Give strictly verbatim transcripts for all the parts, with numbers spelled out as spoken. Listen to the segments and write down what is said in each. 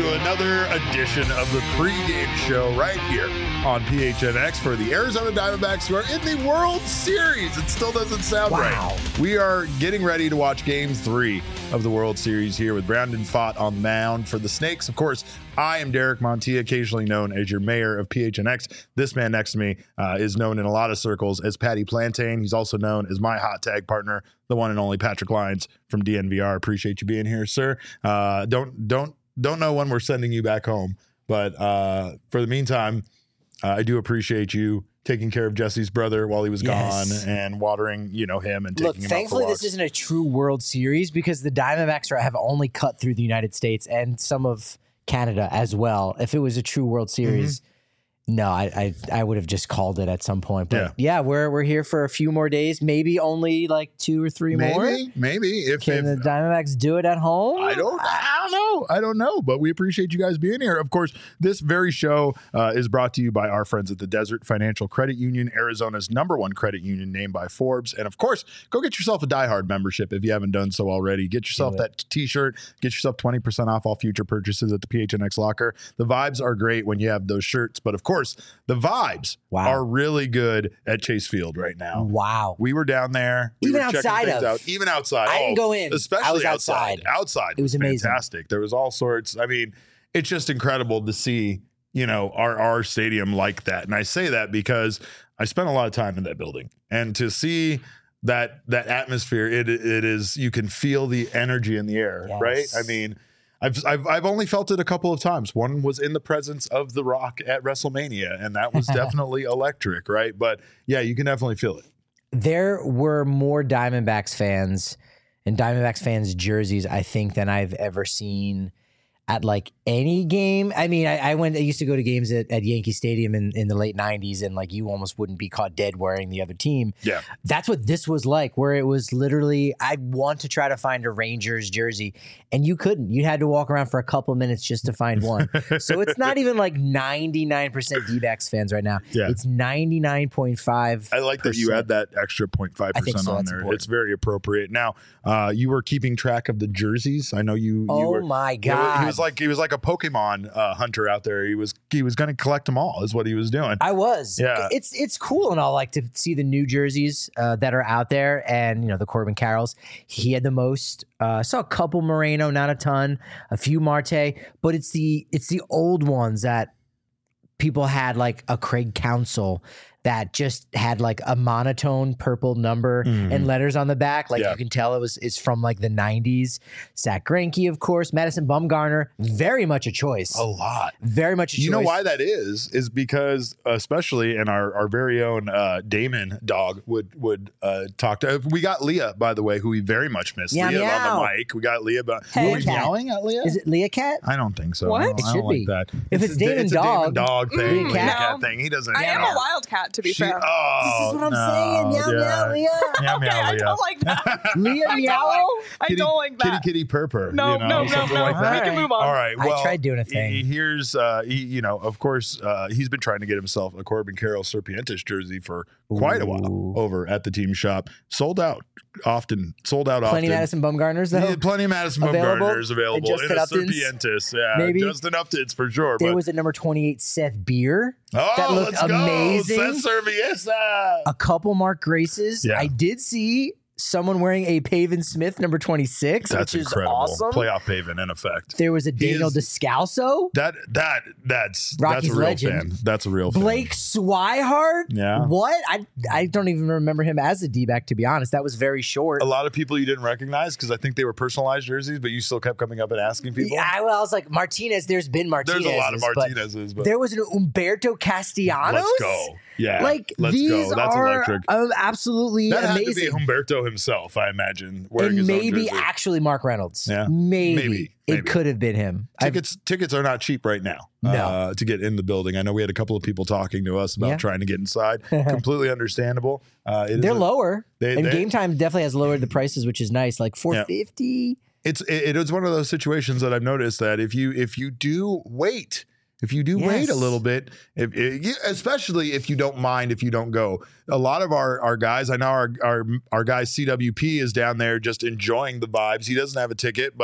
to another edition of the pregame show right here on P H N X for the Arizona Diamondbacks, who are in the World Series. It still doesn't sound wow. right. We are getting ready to watch Game three of the World Series here with Brandon Pfaadt on the mound for the Snakes. Of course, I am Derek Montilla, occasionally known as your mayor of P H N X. This man next to me uh, is known in a lot of circles as Patty Plantain. He's also known as my hot tag partner, the one and only Patrick Lyons from D N V R. Appreciate you being here, sir. Uh, don't don't don't know when we're sending you back home, but uh, for the meantime, uh, I do appreciate you taking care of Jesse's brother while he was yes. gone and watering, you know, him and taking Look, him thankfully, out for walks. This isn't a true World Series because the Diamondbacks are, have only cut through the United States and some of Canada as well. If it was a true World Series, mm-hmm. no, I, I I would have just called it at some point. But yeah, yeah we're we're here for a few more days, maybe only like two or three maybe, more. Maybe, maybe. If, Can if, the Diamondbacks do it at home? I don't, I don't know. I don't know, but we appreciate you guys being here. Of course, this very show uh, is brought to you by our friends at the Desert Financial Credit Union, Arizona's number one credit union named by Forbes. And of course, go get yourself a Die Hard membership if you haven't done so already. Get yourself that t-shirt. Get yourself twenty percent off all future purchases at the P H N X locker. The vibes are great when you have those shirts, but of course, the vibes wow. are really good at Chase Field right now. Wow. We were down there. We even were outside checking things of. out. Even outside. I oh, didn't go in. Especially I was outside. outside. Outside. It was amazing. Fantastic. There was all sorts. I mean, it's just incredible to see, you know, our, our stadium like that. And I say that because I spent a lot of time in that building, and to see that, that atmosphere, it, it is, you can feel the energy in the air, yes. right? I mean, I've, I've, I've only felt it a couple of times. One was in the presence of The Rock at WrestleMania, and that was definitely electric, right? But yeah, you can definitely feel it. There were more Diamondbacks fans and Diamondbacks fans jerseys, I think, than I've ever seen at like any game. I mean, I, I went, I used to go to games at, at Yankee Stadium in, in the late nineties, and like you almost wouldn't be caught dead wearing the other team. Yeah. That's what this was like, where it was literally, I want to try to find a Rangers jersey, and you couldn't. You had to walk around for a couple minutes just to find one. So it's not even like ninety-nine percent D-backs fans right now. Yeah. It's ninety-nine point five percent. I like that you add that extra zero point five percent so. on That's there. important. It's very appropriate. Now, uh, you were keeping track of the jerseys. I know you. you oh were, my God. You know, he was like he was like a Pokemon uh, hunter out there. He was he was going to collect them all. Is what he was doing. I was. Yeah. It's it's cool and all, like, to see the new jerseys uh, that are out there, and you know the Corbin Carrolls. He had the most. Uh, saw a couple Moreno, not a ton. A few Marte, but it's the it's the old ones that people had, like a Craig Counsell that just had like a monotone purple number mm. and letters on the back. Like yeah. you can tell it was it's from like the nineties. Zach Greinke, of course. Madison Bumgarner, very much a choice. A lot. Very much a choice. You know why that is? Is because especially in our, our very own uh, Damon dog would would uh, talk to. We got Leah, by the way, who we very much miss. Meow, Leah meow. on the mic. We got Leah. But hey, were we meowing at Leah? Is it Leah Cat? I don't think so. What? I don't, It I should don't be. like that. If it's, it's Damon it's dog, a Damon dog thing. Leah Cat. Cat thing. He doesn't. I am know. a wildcat, to be She, fair. Oh, this is what I'm no, saying. Meow, yeah. meow, Leah. Meow, okay, meow, I Leah. don't like that. Leah I meow. don't like, I Kitty, don't like that. Kitty, kitty, purr, No, you know, no, no, something no. like We that. can move on. All right. Well, I tried doing a thing. He, here's, uh, he, you know, of course, uh, he's been trying to get himself a Corbin Carroll Serpientes jersey for quite Ooh. a while over at the team shop. Sold out often. Sold out Plenty often. Madison Bumgarners, though. Yeah, plenty of Madison Available? Bumgarners available. Justin in a Uptons? Serpientes. Yeah, Maybe. Justin Uptons for sure. There but, was at number twenty-eight, Seth Beer. oh, that looked let's amazing. go. Seth Serviesa. A couple Mark Graces. Yeah. I did see someone wearing a Pavin Smith number twenty-six, That's which is incredible. awesome. Playoff Pavin in effect. There was a Daniel is- Descalso. That that that's Rocky's that's a real legend. fan. That's a real Blake Swihart. Yeah. What? I I don't even remember him as a D-back, to be honest. That was very short. fan. A lot of people you didn't recognize because I think they were personalized jerseys, but you still kept coming up and asking people. Yeah, I, well, I was like, Martinez, there's been Martinez. There's a lot of Martinez's, but there was an Umberto Castellanos. let's go. Yeah, Like, let's these go. That's are electric. um, absolutely That amazing. had to be Humberto himself, I imagine, wearing And his own maybe jersey. actually Mark Reynolds. Yeah. Maybe. Maybe. It Maybe. could have been him. I've- Tickets tickets are not cheap right now No. uh, to get in the building. I know we had a couple of people talking to us about Yeah. trying to get inside. Completely understandable. Uh, it is They're a- lower. they- and they- Game Time definitely has lowered the prices, which is nice. Like four fifty. It's it, it is one of those situations that I've noticed that if you if you do wait, if you do Yes. wait a little bit, if, if especially if you don't mind if you don't go, a lot of our our guys, I know our our our guy C W P is down there just enjoying the vibes. He doesn't have a ticket, but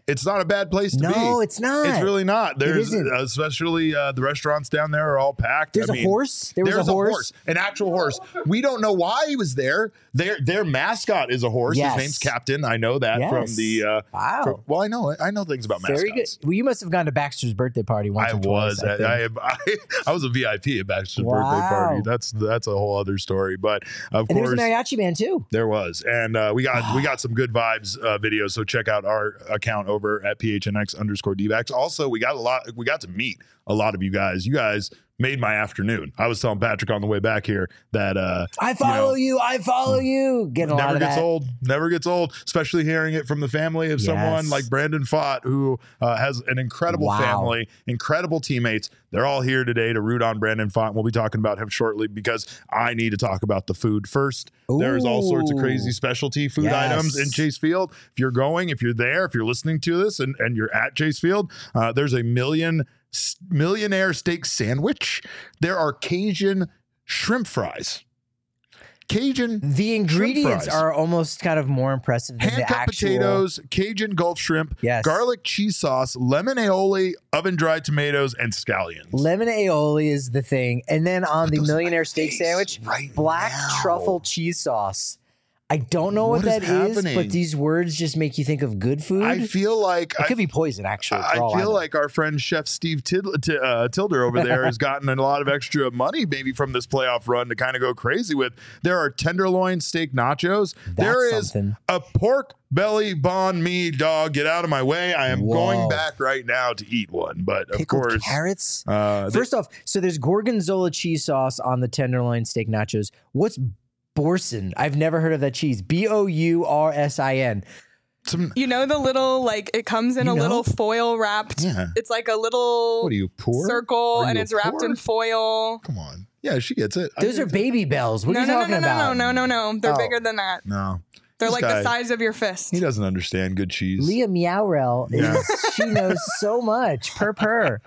it's not a bad place to no, be. No, it's not. It's really not. There's isn't. especially uh, the restaurants down there are all packed. There's I a mean, horse. There was there's a horse. an actual horse. We don't know why he was there. Their their mascot is a horse. Yes. His name's Captain. I know that Yes. from the. Uh, wow. from- well, I know I know things about mascots. Very good. Well, you must have gone to Baxter's birthday party once I or twice. was. I, I, think. I, I, I was a V I P at Baxter's Wow. birthday party. That's that's a whole other story. But of and there course, was a mariachi band too. there was, and uh, we got we got some good vibes uh, videos. So check out our account over at P H N X underscore D-backs. Also, we got a lot. We got to meet a lot of you guys. You guys made my afternoon. I was telling Patrick on the way back here that uh, I follow you. Know, you I follow you. Getting a never lot of gets that. old. Never gets old. Especially hearing it from the family of Yes. someone like Brandon Fott, who uh, has an incredible Wow. family, incredible teammates. They're all here today to root on Brandon Fott. We'll be talking about him shortly because I need to talk about the food first. Ooh. There's all sorts of crazy specialty food Yes. items in Chase Field. If you're going, if you're there, if you're listening to this and, and you're at Chase Field, uh, there's a million millionaire steak sandwich. There are Cajun shrimp fries. Cajun The ingredients fries. are almost kind of more impressive than hand the cut actual potatoes, Cajun Gulf shrimp, Yes. garlic cheese sauce, lemon aioli, oven dried tomatoes, and scallions. Lemon aioli is the thing, and then on the those are millionaire my steak face sandwich, right black now. truffle cheese sauce. I don't know what, What is that is, happening? but these words just make you think of good food. I feel like it I, could be poison, actually. for I all feel know. like our friend Chef Steve Tid- T- uh, Tilder over there has gotten a lot of extra money maybe from this playoff run to kind of go crazy with. There are tenderloin steak nachos. there is something. a pork belly banh mi, dog. Get out of my way. I am Whoa. going back right now to eat one. But of Pickled course, carrots. uh, First off, so there's gorgonzola cheese sauce on the tenderloin steak nachos. What's Boursin? I've never heard of that cheese. B O U R S I N. some, You know the little, like, it comes in You a know? little foil wrapped. Yeah. It's like a little what are you, poor? circle Are and you it's wrapped poor? in foil. Come on. Yeah, she gets it. I Those get are it. baby bells. What No, are you no, no, talking no, no, about? no, no, no, no. They're Oh. bigger than that. No. They're This like guy- the size of your fist. He doesn't understand good cheese. Leah Meowrell, is, Yeah. she knows so much. Per per.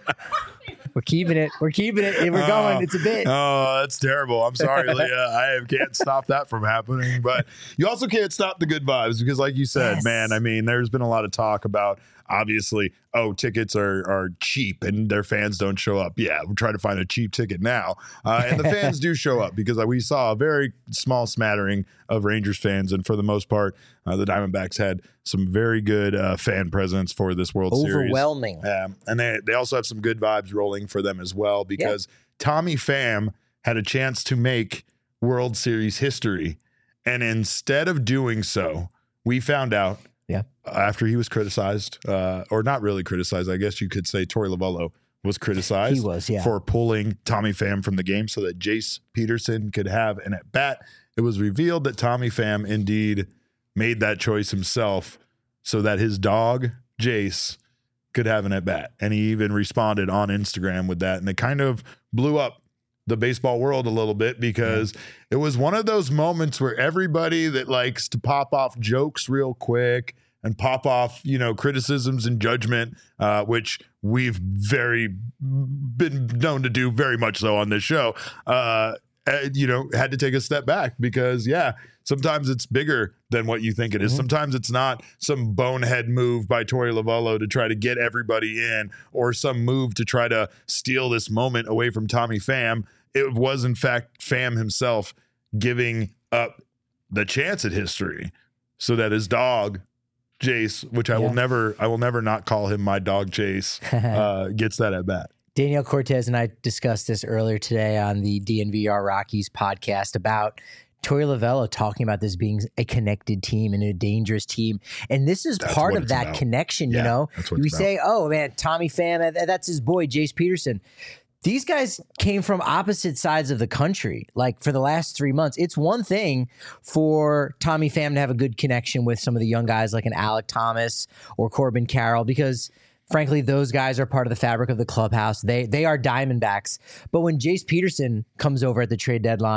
We're keeping it. We're keeping it. We're going. It's a bit. Oh, that's terrible. I'm sorry, Leah. I can't stop that from happening. But you also can't stop the good vibes because, like you said, Yes. man, I mean, there's been a lot of talk about obviously, oh, tickets are are cheap and their fans don't show up. Yeah, we're trying to find a cheap ticket now. Uh, and the fans do show up because we saw a very small smattering of Rangers fans. And for the most part, uh, the Diamondbacks had some very good uh, fan presence for this World Series. Overwhelming. Um, and they, they also have some good vibes rolling for them as well because Tommy Pham had a chance to make World Series history. And instead of doing so, we found out Yeah. after he was criticized, uh, or not really criticized, I guess you could say Torey Lovullo was criticized He was, yeah. for pulling Tommy Pham from the game so that Jace Peterson could have an at-bat. It was revealed that Tommy Pham indeed made that choice himself so that his dog, Jace, could have an at-bat. And he even responded on Instagram with that. And it kind of blew up the baseball world a little bit because yeah. it was one of those moments where everybody that likes to pop off jokes real quick and pop off, you know, criticisms and judgment, uh, which we've very been known to do very much so on this show, uh, you know, had to take a step back because, yeah, sometimes it's bigger than what you think it is. Mm-hmm. Sometimes it's not some bonehead move by Torey Lovullo to try to get everybody in or some move to try to steal this moment away from Tommy Pham. It was, in fact, Pham himself giving up the chance at history so that his dog, Jace, which I yeah. will never, I will never not call him my dog, Jace, uh, gets that at bat. Danielle Cortez and I discussed this earlier today on the D N V R Rockies podcast about Torey Lovullo talking about this being a connected team and a dangerous team. And this is that's part of that about. connection, yeah, you know? We about. say, oh, man, Tommy Pham, that's his boy, Jace Peterson. These guys came from opposite sides of the country, like for the last three months. It's one thing for Tommy Pham to have a good connection with some of the young guys like an Alec Thomas or Corbin Carroll because, frankly, those guys are part of the fabric of the clubhouse. They they are Diamondbacks. But when Jace Peterson comes over at the trade deadline,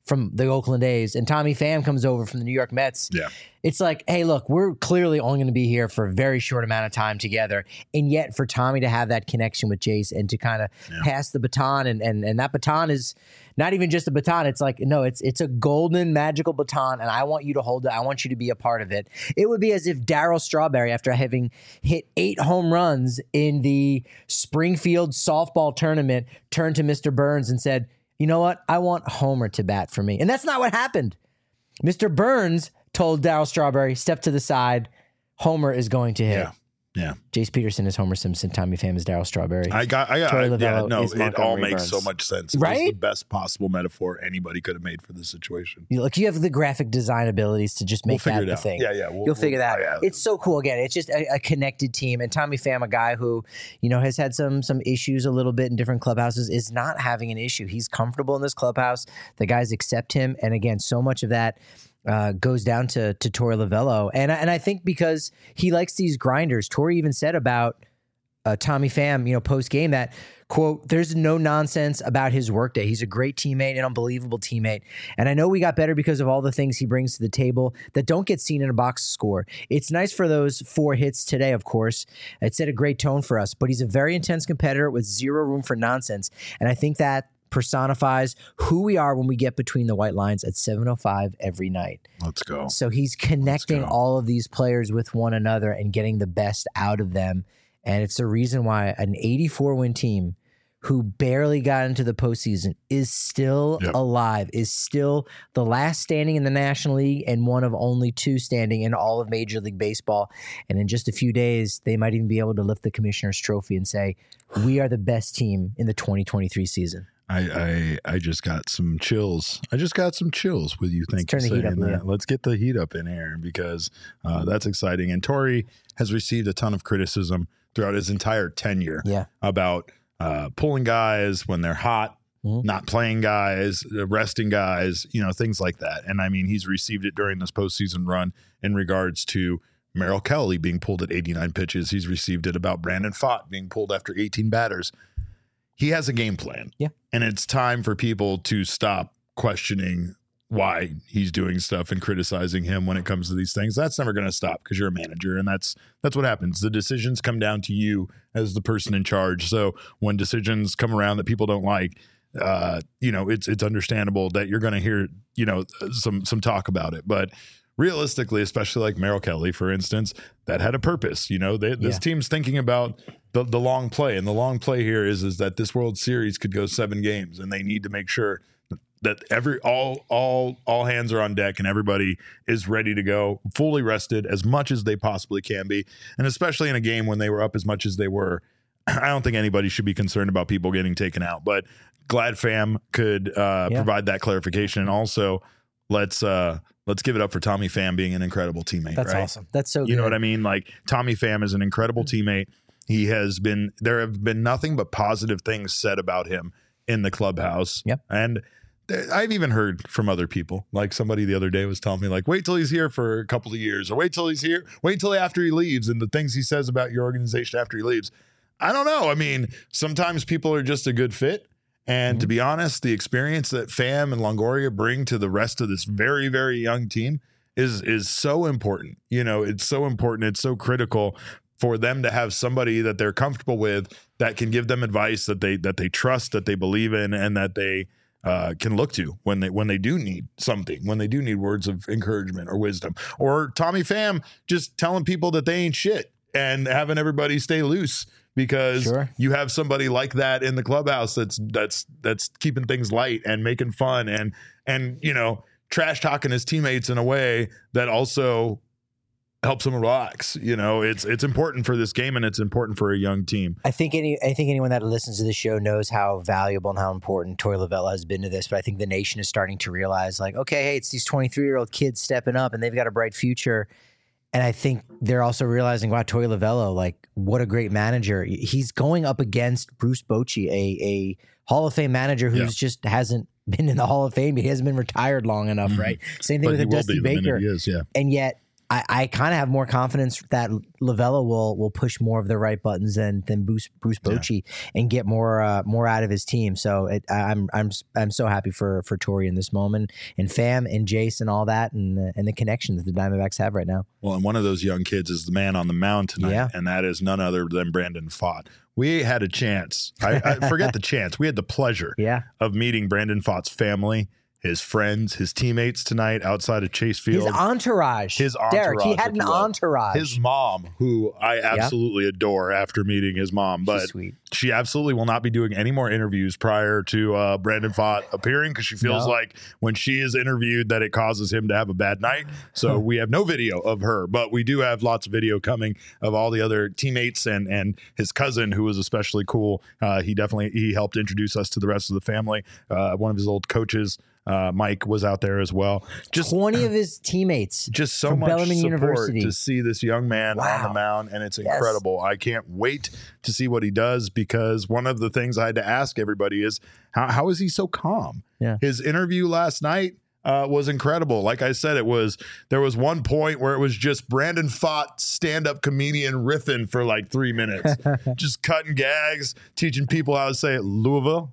from the Oakland A's and Tommy Pham comes over from the New York Mets. Yeah. It's like, hey, look, we're clearly only going to be here for a very short amount of time together. And yet for Tommy to have that connection with Jace and to kind of Yeah. pass the baton, and, and and that baton is not even just a baton. It's like, no, it's it's a golden, magical baton, and I want you to hold it. I want you to be a part of it. It would be as if Darryl Strawberry, after having hit eight home runs in the Springfield softball tournament, turned to Mister Burns and said, you know what? I want Homer to bat for me. And that's not what happened. Mister Burns told Darryl Strawberry, step to the side. Homer is going to hit. Yeah. Yeah. Jace Peterson is Homer Simpson. Tommy Pham is Darryl Strawberry. I got, I got, Troy I, yeah, Lavello no, is it all Montgomery makes Burns. so much sense. It was Right? the best possible metaphor anybody could have made for this situation. You look, you have the graphic design abilities to just We'll make figure that it the out. thing. Yeah, yeah. We'll, You'll figure we'll- that. oh, yeah. It's so cool. Again, it's just a, a connected team. And Tommy Pham, a guy who, you know, has had some some issues a little bit in different clubhouses, is not having an issue. He's comfortable in this clubhouse. The guys accept him. And again, so much of that uh, goes down to to Torey Lavello. And, I- and I think because he likes these grinders, Torey even said about Uh, Tommy Pham, you know, post game that, quote, there's no nonsense about his workday. He's a great teammate, an unbelievable teammate. And I know we got better because of all the things he brings to the table that don't get seen in a box score. It's nice for those four hits today, of course. It set a great tone for us, but he's a very intense competitor with zero room for nonsense. And I think that personifies who we are when we get between the white lines at seven oh five every night. Let's go. So he's connecting go. all of these players with one another and getting the best out of them. And it's the reason why an eighty-four win team who barely got into the postseason is still Yep. alive, is still the last standing in the National League and one of only two standing in all of Major League Baseball. And in just a few days, they might even be able to lift the Commissioner's Trophy and say, we are the best team in the twenty twenty-three season. I, I I just got some chills. I just got some chills with you. Thank turn you the heat saying up, that. Leah. Let's get the heat up in here because uh, that's exciting. And Torey has received a ton of criticism throughout his entire tenure Yeah. about uh, pulling guys when they're hot, Mhm. not playing guys, resting guys, you know, things like that. And I mean, he's received it during this postseason run in regards to Merrill Kelly being pulled at eighty-nine pitches. He's received it about Brandon Pfaadt being pulled after eighteen batters. He has a game plan. Yeah. And it's time for people to stop questioning why he's doing stuff and criticizing him when it comes to these things. That's never going to stop because you're a manager, and that's that's what happens. The decisions come down to you as the person in charge. So when decisions come around that people don't like, uh, you know, it's it's understandable that you're going to hear, you know, some some talk about it. But realistically, especially like Merrill Kelly, for instance, that had a purpose. You know, they, this Yeah. team's thinking about the the long play, and the long play here is is that this World Series could go seven games, and they need to make sure that every all all all hands are on deck and everybody is ready to go, fully rested as much as they possibly can be, and especially in a game when they were up as much as they were. I don't think anybody should be concerned about people getting taken out, but glad Pham could uh, Yeah. provide that clarification, and also let's uh, let's give it up for Tommy Pham being an incredible teammate. That's right? awesome. That's so good. You know what I mean? Like Tommy Pham is an incredible teammate. He has been, there have been nothing but positive things said about him in the clubhouse. Yep. And th- I've even heard from other people, like somebody the other day was telling me like, wait till he's here for a couple of years, or wait till he's here, wait till after he leaves and the things he says about your organization after he leaves. I don't know. I mean, sometimes people are just a good fit. And Mm-hmm. to be honest, the experience that Pham and Longoria bring to the rest of this very, very young team is is so important. You know, it's so important. It's so critical for them to have somebody that they're comfortable with that can give them advice that they that they trust, that they believe in, and that they uh, can look to when they when they do need something, when they do need words of encouragement or wisdom. Or Tommy Pham just telling people that they ain't shit and having everybody stay loose because Sure. you have somebody like that in the clubhouse that's that's that's keeping things light and making fun and and you know trash talking his teammates in a way that also helps them relax. You know, it's it's important for this game and it's important for a young team. I think any I think anyone that listens to the show knows how valuable and how important Torey Lavello has been to this. But I think the nation is starting to realize, like, okay, hey, it's these twenty-three year old kids stepping up and they've got a bright future. And I think they're also realizing, wow, Torey Lavello, like, what a great manager. He's going up against Bruce Bochy, a a Hall of Fame manager who's Yeah. just hasn't been in the Hall of Fame. He hasn't been retired long enough, Mhm. right? Same thing But with he a will Dusty be the minute Baker. he is, yeah. And yet I, I kind of have more confidence that Lavella will will push more of the right buttons than than Bruce Bruce Bochy yeah. and get more uh, more out of his team. So it, I'm I'm I'm so happy for for Torrey in this moment, and Fam and Jace and all that, and the, and the connection that the Diamondbacks have right now. Well, and one of those young kids is the man on the mound tonight, yeah. and that is none other than Brandon Pfaadt. We had a chance. I, I forget the chance. We had the pleasure yeah. of meeting Brandon Pfaadt's family, his friends, his teammates tonight outside of Chase Field. His entourage. His entourage. Derek, he had an entourage. His mom, who I absolutely yeah. adore after meeting his mom. But She's sweet. She absolutely will not be doing any more interviews prior to uh, Brandon Pfaadt appearing because she feels no. like when she is interviewed that it causes him to have a bad night. So we have no video of her, but we do have lots of video coming of all the other teammates and and his cousin, who was especially cool. Uh, he definitely he helped introduce us to the rest of the family. Uh, one of his old coaches, Uh, Mike, was out there as well. Just twenty of his teammates. Just so from much Bellarmine support University. to see this young man wow. on the mound, and it's Yes. incredible. I can't wait to see what he does because one of the things I had to ask everybody is how how is he so calm? Yeah. His interview last night uh, was incredible. Like I said, it was there was one point where it was just Brandon Pfaadt, stand-up comedian, riffing for like three minutes, just cutting gags, teaching people how to say it. Louisville.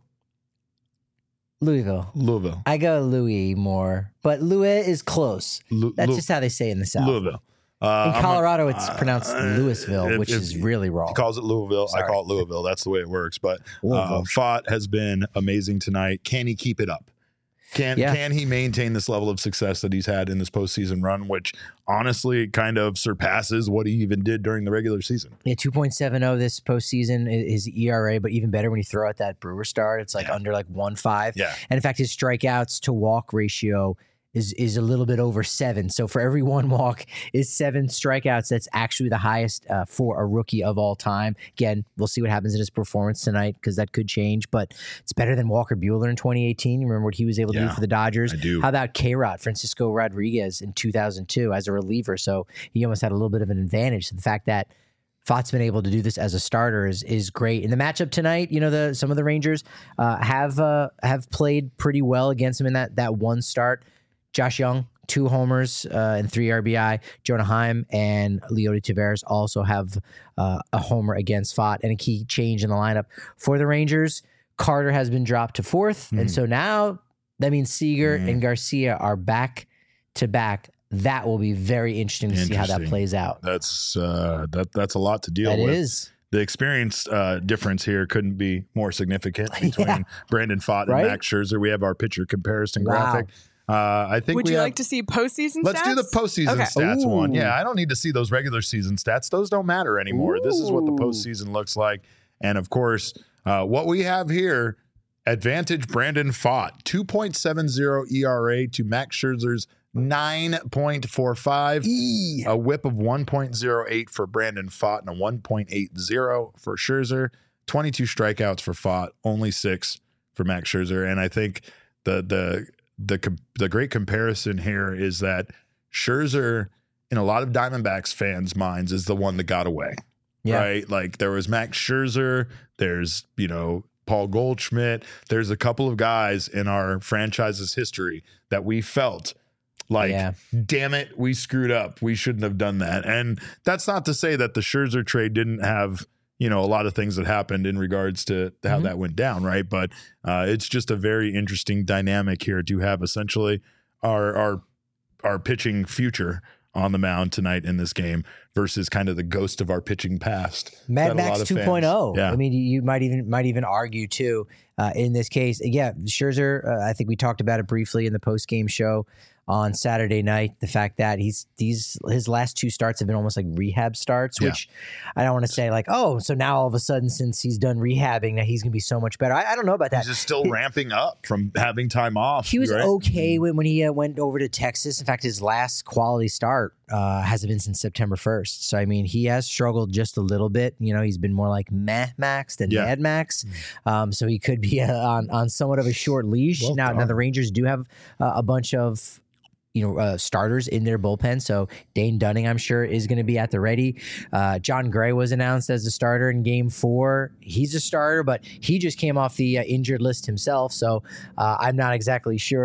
Louisville. Louisville. I go Louis more, but Louis is close. Lu- That's Lu- just how they say it in the South. Louisville. Uh, in Colorado, a, it's pronounced uh, Louisville, if, which if is really wrong. He calls it Louisville. Sorry. I call it Louisville. That's the way it works. But Louisville. uh, Pfaadt has been amazing tonight. Can he keep it up? Can Yeah. can he maintain this level of success that he's had in this postseason run, which honestly kind of surpasses what he even did during the regular season? Yeah, two point seven oh this postseason is E R A, but even better when you throw out that Brewer start, it's like Yeah. under like one five. Yeah. And in fact, his strikeouts to walk ratio is is a little bit over seven. So for every one walk is seven strikeouts. That's actually the highest uh, for a rookie of all time. Again, we'll see what happens in his performance tonight because that could change, but it's better than Walker Buehler in twenty eighteen. You remember what he was able to Yeah, do for the Dodgers? I do. How about K-Rod, Francisco Rodriguez in two thousand two as a reliever? So he almost had a little bit of an advantage. So the fact that Pfaadt's been able to do this as a starter is is great. In the matchup tonight, you know, the some of the Rangers uh, have uh, have played pretty well against him in that that one start. Josh Young, two homers uh, and three R B I. Jonah Heim and Leody Taveras also have uh, a homer against Pfaadt. And a key change in the lineup for the Rangers, Carter has been dropped to fourth. Mm. And so now that means Seager Mm. and Garcia are back to back. That will be very interesting to see how that Interesting. plays out. That's uh, that that's a lot to deal That with. is. The experience uh, difference here couldn't be more significant between Yeah. Brandon Pfaadt and Right? Max Scherzer. We have our pitcher comparison Wow. graphic. Uh, I think Would we you have, like to see postseason Let's stats? do the postseason Okay. stats one. Ooh. Yeah, I don't need to see those regular season stats. Those don't matter anymore. This is what the Ooh. postseason looks like. And of course, uh, what we have here, advantage Brandon Pfaadt, two point seven oh E R A to Max Scherzer's nine point four five. E. A whip of one point oh eight for Brandon Pfaadt and a one point eight oh for Scherzer. twenty-two strikeouts for Pfaadt, only six for Max Scherzer. And I think the the the com- the great comparison here is that Scherzer, in a lot of Diamondbacks fans' minds, is the one that got away. Yeah. Right? Like there was Max Scherzer, there's, you know, Paul Goldschmidt. There's a couple of guys in our franchise's history that we felt like, Yeah. damn it, we screwed up. We shouldn't have done that. And that's not to say that the Scherzer trade didn't have, you know, a lot of things that happened in regards to how Mhm. that went down, right? But uh, it's just a very interesting dynamic here to have essentially our our our pitching future on the mound tonight in this game versus kind of the ghost of our pitching past. Mad that a lot Max of two fans- point oh. Yeah. I mean, you, you might even might even argue too uh, in this case. Yeah, Scherzer. Uh, I think we talked about it briefly in the post game show on Saturday night. The fact that he's these his last two starts have been almost like rehab starts, Yeah. which I don't want to say like, oh, so now all of a sudden since he's done rehabbing, that he's gonna be so much better. I, I don't know about that. He's just still ramping up from having time off. He was right? okay when, when he uh, went over to Texas. In fact, his last quality start uh, hasn't been since September first. So, I mean, he has struggled just a little bit. You know, he's been more like meh Max than Yeah. Mad Max. Um, so he could be uh, on, on somewhat of a short leash. Well now, now, done. the Rangers do have uh, a bunch of you know, uh, starters in their bullpen. So Dane Dunning, I'm sure, is going to be at the ready. Uh, John Gray was announced as a starter in game four. He's a starter, but he just came off the uh, injured list himself. So uh, I'm not exactly sure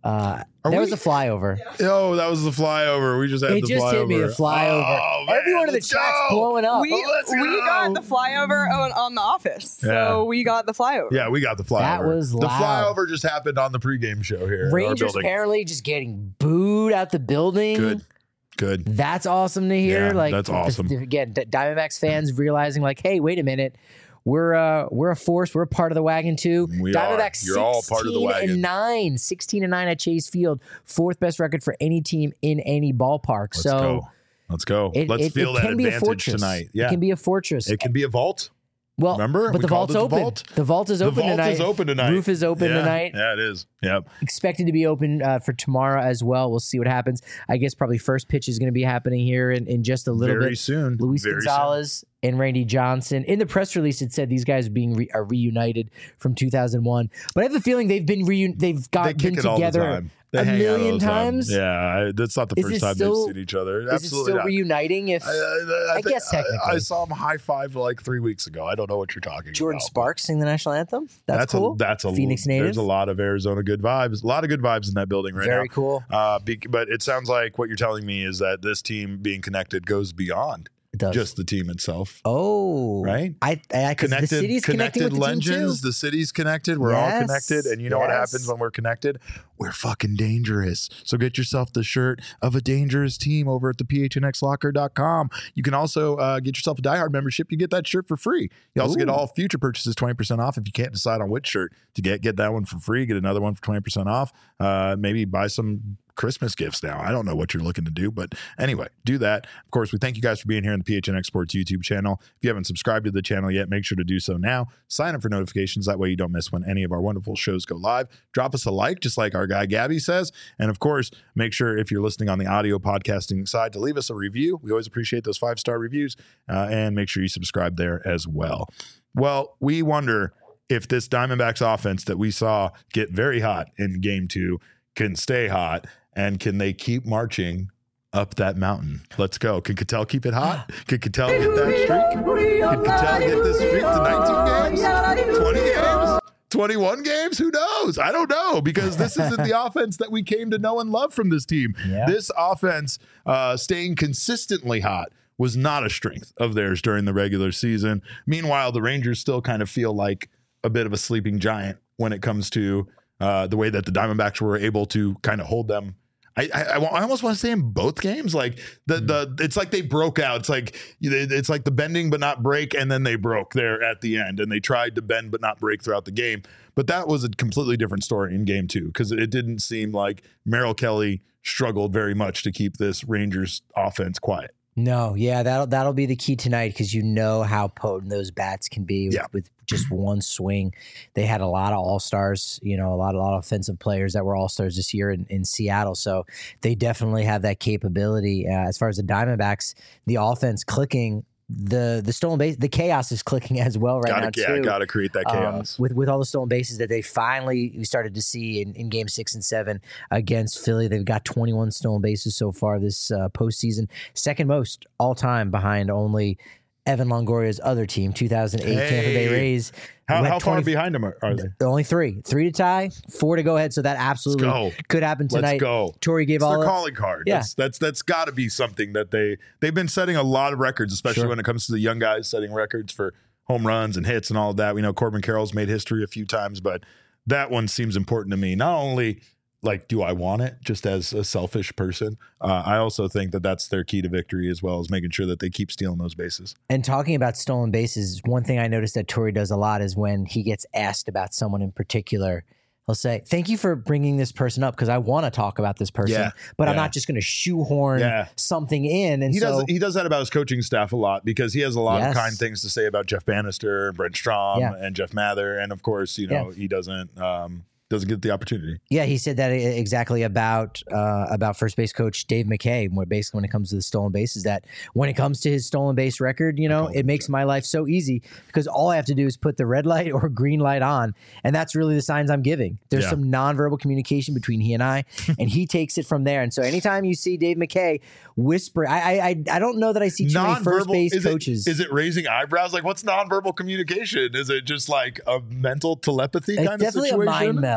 Uh, Are there we- was a flyover. Oh, that was the flyover. We just had It the just flyover. hit me, the flyover. Oh, man, Everyone in the let's chat's go. blowing up. We, let's we go. got the flyover on, on the office. So Yeah. we got the flyover. Yeah, we got the flyover. That was the loud. flyover just happened on the pregame show here. in our Rangers building. apparently just getting booed out the building. Good, good. That's awesome to hear. Yeah, like that's awesome. th- Again, D- Diamondbacks fans realizing like, hey, wait a minute. We're uh we're a force. We're a part of the wagon too. We Diamondbacks are. You're all part of the sixteen wagon. and nine, sixteen and nine at Chase Field, fourth best record for any team in any ballpark. Let's so go. Let's go. it, Let's it, feel it that can be a advantage fortress tonight. It Yeah, can be a fortress. it can be a vault. well, Remember? but We the called vault's it the open. vault. The vault is The open vault tonight. is open tonight. Roof is open Yeah. tonight. Yeah, it is. Yep. Expected to be open uh, for tomorrow as well. We'll see what happens. I guess probably first pitch is going to be happening here in, in just a little Very bit. soon. Luis Very Gonzalez and Randy Johnson. In the press release, it said these guys are being re- are reunited from two thousand one. But I have a feeling they've been reun- they've got They kick been it all the together time. They a hang out all million the time. times. Yeah, I, that's not the Is first it time still- they've seen each other. Is it Absolutely still not. reuniting? If I, I, I guess I, technically. I saw him high five like three weeks ago. I don't know what you're talking Jordan about. Sparks sing the national anthem, that's, That's cool. a that's a Phoenix native. There's a lot of Arizona good vibes. A lot of good vibes in that building right Very now. cool. Uh, be, but it sounds like what you're telling me is that this team being connected goes beyond It does. just the team itself. Oh, Right? I, I connected. Connected, The city's connecting connected with the team legends. too. The city's connected. We're all Yes, connected, and you know what yes. happens when we're connected? We're fucking dangerous. So get yourself the shirt of a dangerous team over at the P H N X locker dot com. You can also uh, get yourself a diehard membership. You get that shirt for free. You also get Ooh. all future purchases twenty percent off. If you can't decide on which shirt to get, get that one for free. Get another one for twenty percent off. Uh, maybe buy some Christmas gifts now. I don't know what you're looking to do, but anyway, do that. Of course, we thank you guys for being here on the P H N X Sports YouTube channel. If you haven't subscribed to the channel yet, make sure to do so now. Sign up for notifications. That way you don't miss when any of our wonderful shows go live. Drop us a like, just like our guy Gabby says. And of course, make sure if you're listening on the audio podcasting side to leave us a review. We always appreciate those five-star reviews. Uh, and make sure you subscribe there as well. Well, we wonder if this Diamondbacks offense that we saw get very hot in game two can stay hot. And can they keep marching up that mountain? Let's go. Can Cattell keep it hot? Can Cattell get that streak? Can Cattell get this streak to nineteen games? twenty games? twenty-one games? Who knows? I don't know, because this isn't the offense that we came to know and love from this team. Yeah. This offense uh, staying consistently hot was not a strength of theirs during the regular season. Meanwhile, the Rangers still kind of feel like a bit of a sleeping giant when it comes to uh, the way that the Diamondbacks were able to kind of hold them. I, I, I almost want to say in both games, like the the it's like they broke out. It's like it's like the bending but not break, and then they broke there at the end, and they tried to bend but not break throughout the game. But that was a completely different story in game two, because it didn't seem like Merrill Kelly struggled very much to keep this Rangers offense quiet. No, yeah, that'll that'll be the key tonight, because you know how potent those bats can be with, Yeah. with just one swing. They had a lot of all stars, you know, a lot a lot of offensive players that were all stars this year in, in Seattle. So they definitely have that capability. Uh, as far as the Diamondbacks, the offense clicking, the the stolen base, the chaos is clicking as well right Gotta, now yeah, too. gotta create that Um, chaos. with with all the stolen bases that they finally we started to see in, in game six and seven against Philly. They've got twenty-one stolen bases so far this uh, postseason, second most all time behind only Evan Longoria's other team, two thousand eight Tampa Bay Hey. Rays. how who had how far twenty behind them are, are they? Only three, three to tie, four to go ahead. So that absolutely go. could happen tonight. Let's go. Torrey gave It's all their calling card. Yeah. That's that's that's got to be something that they they've been setting a lot of records, especially Sure. when it comes to the young guys setting records for home runs and hits and all of that. We know Corbin Carroll's made history a few times, but that one seems important to me. Not only like, do I want it just as a selfish person? Uh, I also think that that's their key to victory, as well as making sure that they keep stealing those bases. And talking about stolen bases, one thing I noticed that Torrey does a lot is when he gets asked about someone in particular, he'll say, "Thank you for bringing this person up, because I want to talk about this person, Yeah, but I'm yeah. not just going to shoehorn Yeah. something in." And He so, does he does that about his coaching staff a lot, because he has a lot Yes. of kind things to say about Jeff Bannister, Brent Strom, Yeah. and Jeff Mather, and of course, you know, he doesn't um, doesn't get the opportunity. yeah, he said that exactly about uh, about first base coach Dave McKay. Where basically, when it comes to the stolen bases, that when it comes to his stolen base record, you know, it makes my life so easy, because all I have to do is put the red light or green light on, and that's really the signs I'm giving. There's Yeah. some nonverbal communication between he and I, and he takes it from there. And so, anytime you see Dave McKay whisper, I I I, I don't know that I see too many first Nonverbal- base is coaches. It, is it raising eyebrows? Like, what's nonverbal communication? Is it just like a mental telepathy it's kind of definitely situation? a mind meld.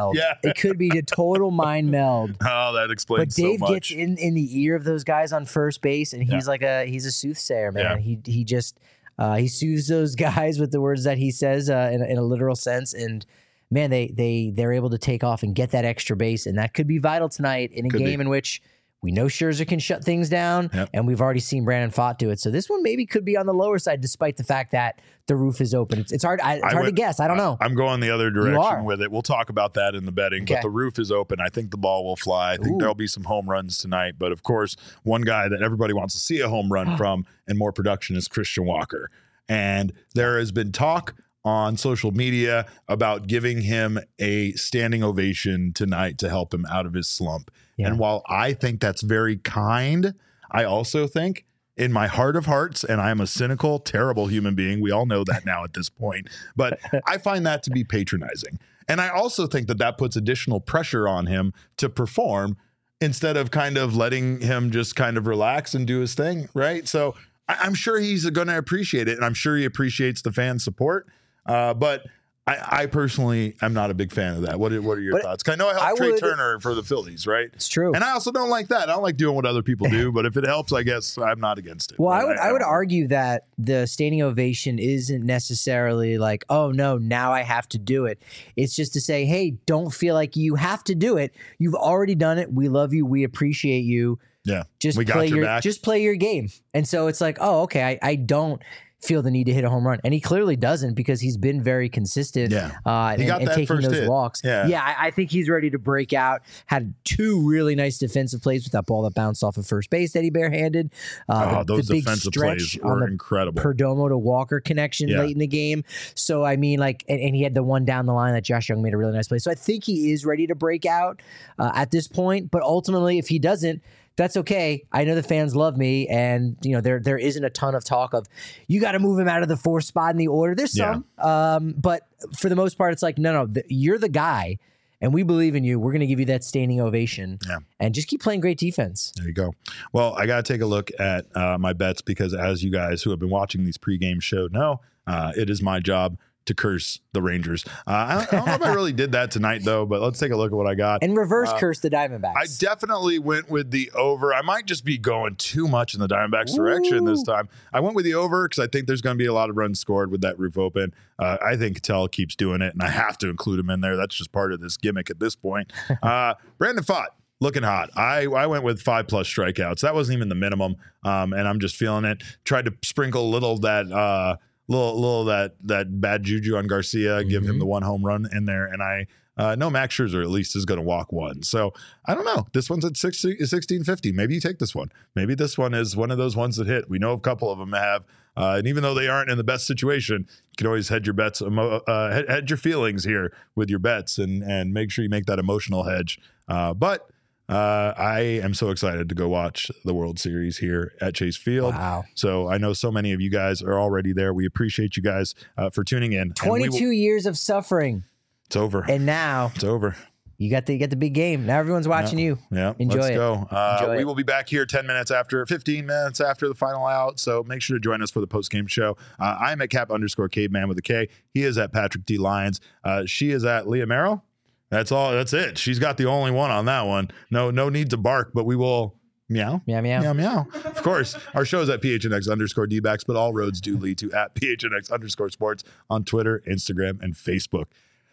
meld. Yeah. It could be a total mind meld. Oh, that explains But Dave so much. gets in, in the ear of those guys on first base, and he's Yeah. like a he's a soothsayer, man. Yeah. He he just uh, he soothes those guys with the words that he says uh, in, a, in a literal sense, and man, they they they're able to take off and get that extra base, and that could be vital tonight in a Could game be. in which we know Scherzer can shut things down, Yep. and we've already seen Brandon Pfaadt do it. So this one maybe could be on the lower side, despite the fact that the roof is open. It's, it's hard. I, it's I hard went- to guess. I don't know. I'm going the other are. direction with it. We'll talk about that in the betting, Okay. but the roof is open. I think the ball will fly. I think Ooh. there'll be some home runs tonight. But of course, one guy that everybody wants to see a home run from and more production is Christian Walker. And there has been talk on social media about giving him a standing ovation tonight to help him out of his slump. Yeah. And while I think that's very kind, I also think in my heart of hearts, and I am a cynical, terrible human being. We all know that now at this point, but I find that to be patronizing. And I also think that that puts additional pressure on him to perform instead of kind of letting him just kind of relax and do his thing. Right. So I, I'm sure he's going to appreciate it. And I'm sure he appreciates the fan support. Uh, but I, I personally am not a big fan of that. What are, what are your But thoughts? 'Cause I know I helped I Trey would- Turner for the Phillies, right? It's true. And I also don't like that. I don't like doing what other people do, but if it helps, I guess I'm not against it. Well, But I would I, would don't- argue that the standing ovation isn't necessarily like, oh no, now I have to do it. It's just to say, hey, don't feel like you have to do it. You've already done it. We love you. We appreciate you. Yeah. Just We got play your your back. just play your game. And so it's like, oh, okay, I, I don't feel the need to hit a home run. And he clearly doesn't because he's been very consistent Yeah. uh, He and, got and that taking first those hit. walks. Yeah. yeah I, I think he's ready to break out. Had two really nice defensive plays with that ball that bounced off of first base that he barehanded. Uh, Oh, the, those the big defensive stretch plays on were the incredible. Perdomo to Walker connection Yeah. late in the game. So, I mean, like, and, and he had the one down the line that Josh Young made a really nice play. So I think he is ready to break out uh, at this point. But ultimately, if he doesn't, that's okay. I know the fans love me, and you know there there isn't a ton of talk of you got to move him out of the fourth spot in the order. There's some, um, but for the most part, it's like no, no, th- you're the guy, and we believe in you. We're going to give you that standing ovation, Yeah. and just keep playing great defense. There you go. Well, I got to take a look at uh, my bets because as you guys who have been watching these pregame show know, uh, it is my job to curse the Rangers. Uh, I, don't, I don't know if I really did that tonight, though, but let's take a look at what I got. And reverse Uh, curse the Diamondbacks. I definitely went with the over. I might just be going too much in the Diamondbacks direction this time. I went with the over because I think there's going to be a lot of runs scored with that roof open. Uh, I think Cattell keeps doing it, and I have to include him in there. That's just part of this gimmick at this point. Uh, Brandon Pfaadt. Looking hot. I, I went with five plus strikeouts. That wasn't even the minimum, um, and I'm just feeling it. Tried to sprinkle a little of that uh, little little that that bad juju on Garcia, give him Mhm. the one home run in there, and I uh, know Max Scherzer at least is going to walk one. So I don't know. This one's at sixteen fifty. Maybe you take this one. Maybe this one is one of those ones that hit. We know a couple of them have, uh, and even though they aren't in the best situation, you can always hedge your bets, emo- uh, hedge, hedge your feelings here with your bets, and and make sure you make that emotional hedge. Uh, but. Uh, I am so excited to go watch the World Series here at Chase Field. Wow. So I know so many of you guys are already there. We appreciate you guys uh, for tuning in. And we will- twenty-two years of suffering, It's over. and now It's over. you got the you got the big game. Now everyone's watching you. Yeah, Enjoy let's it. go. Uh, Enjoy we it. will be back here ten minutes after, fifteen minutes after the final out. So make sure to join us for the post game show. Uh, I'm at Cap underscore Caveman with a K. He is at Patrick D Lyons. Uh, she is at Leah Merrill. That's all. That's it. She's got the only one on that one. No, no need to bark, but we will meow. Meow meow. Meow, meow. Of course, our show is at P H N X underscore D-backs, but all roads do lead to at P H N X underscore sports on Twitter, Instagram, and Facebook.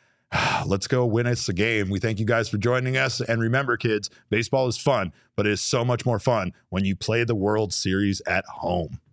Let's go win us a game. We thank you guys for joining us. And remember, kids, baseball is fun, but it is so much more fun when you play the World Series at home.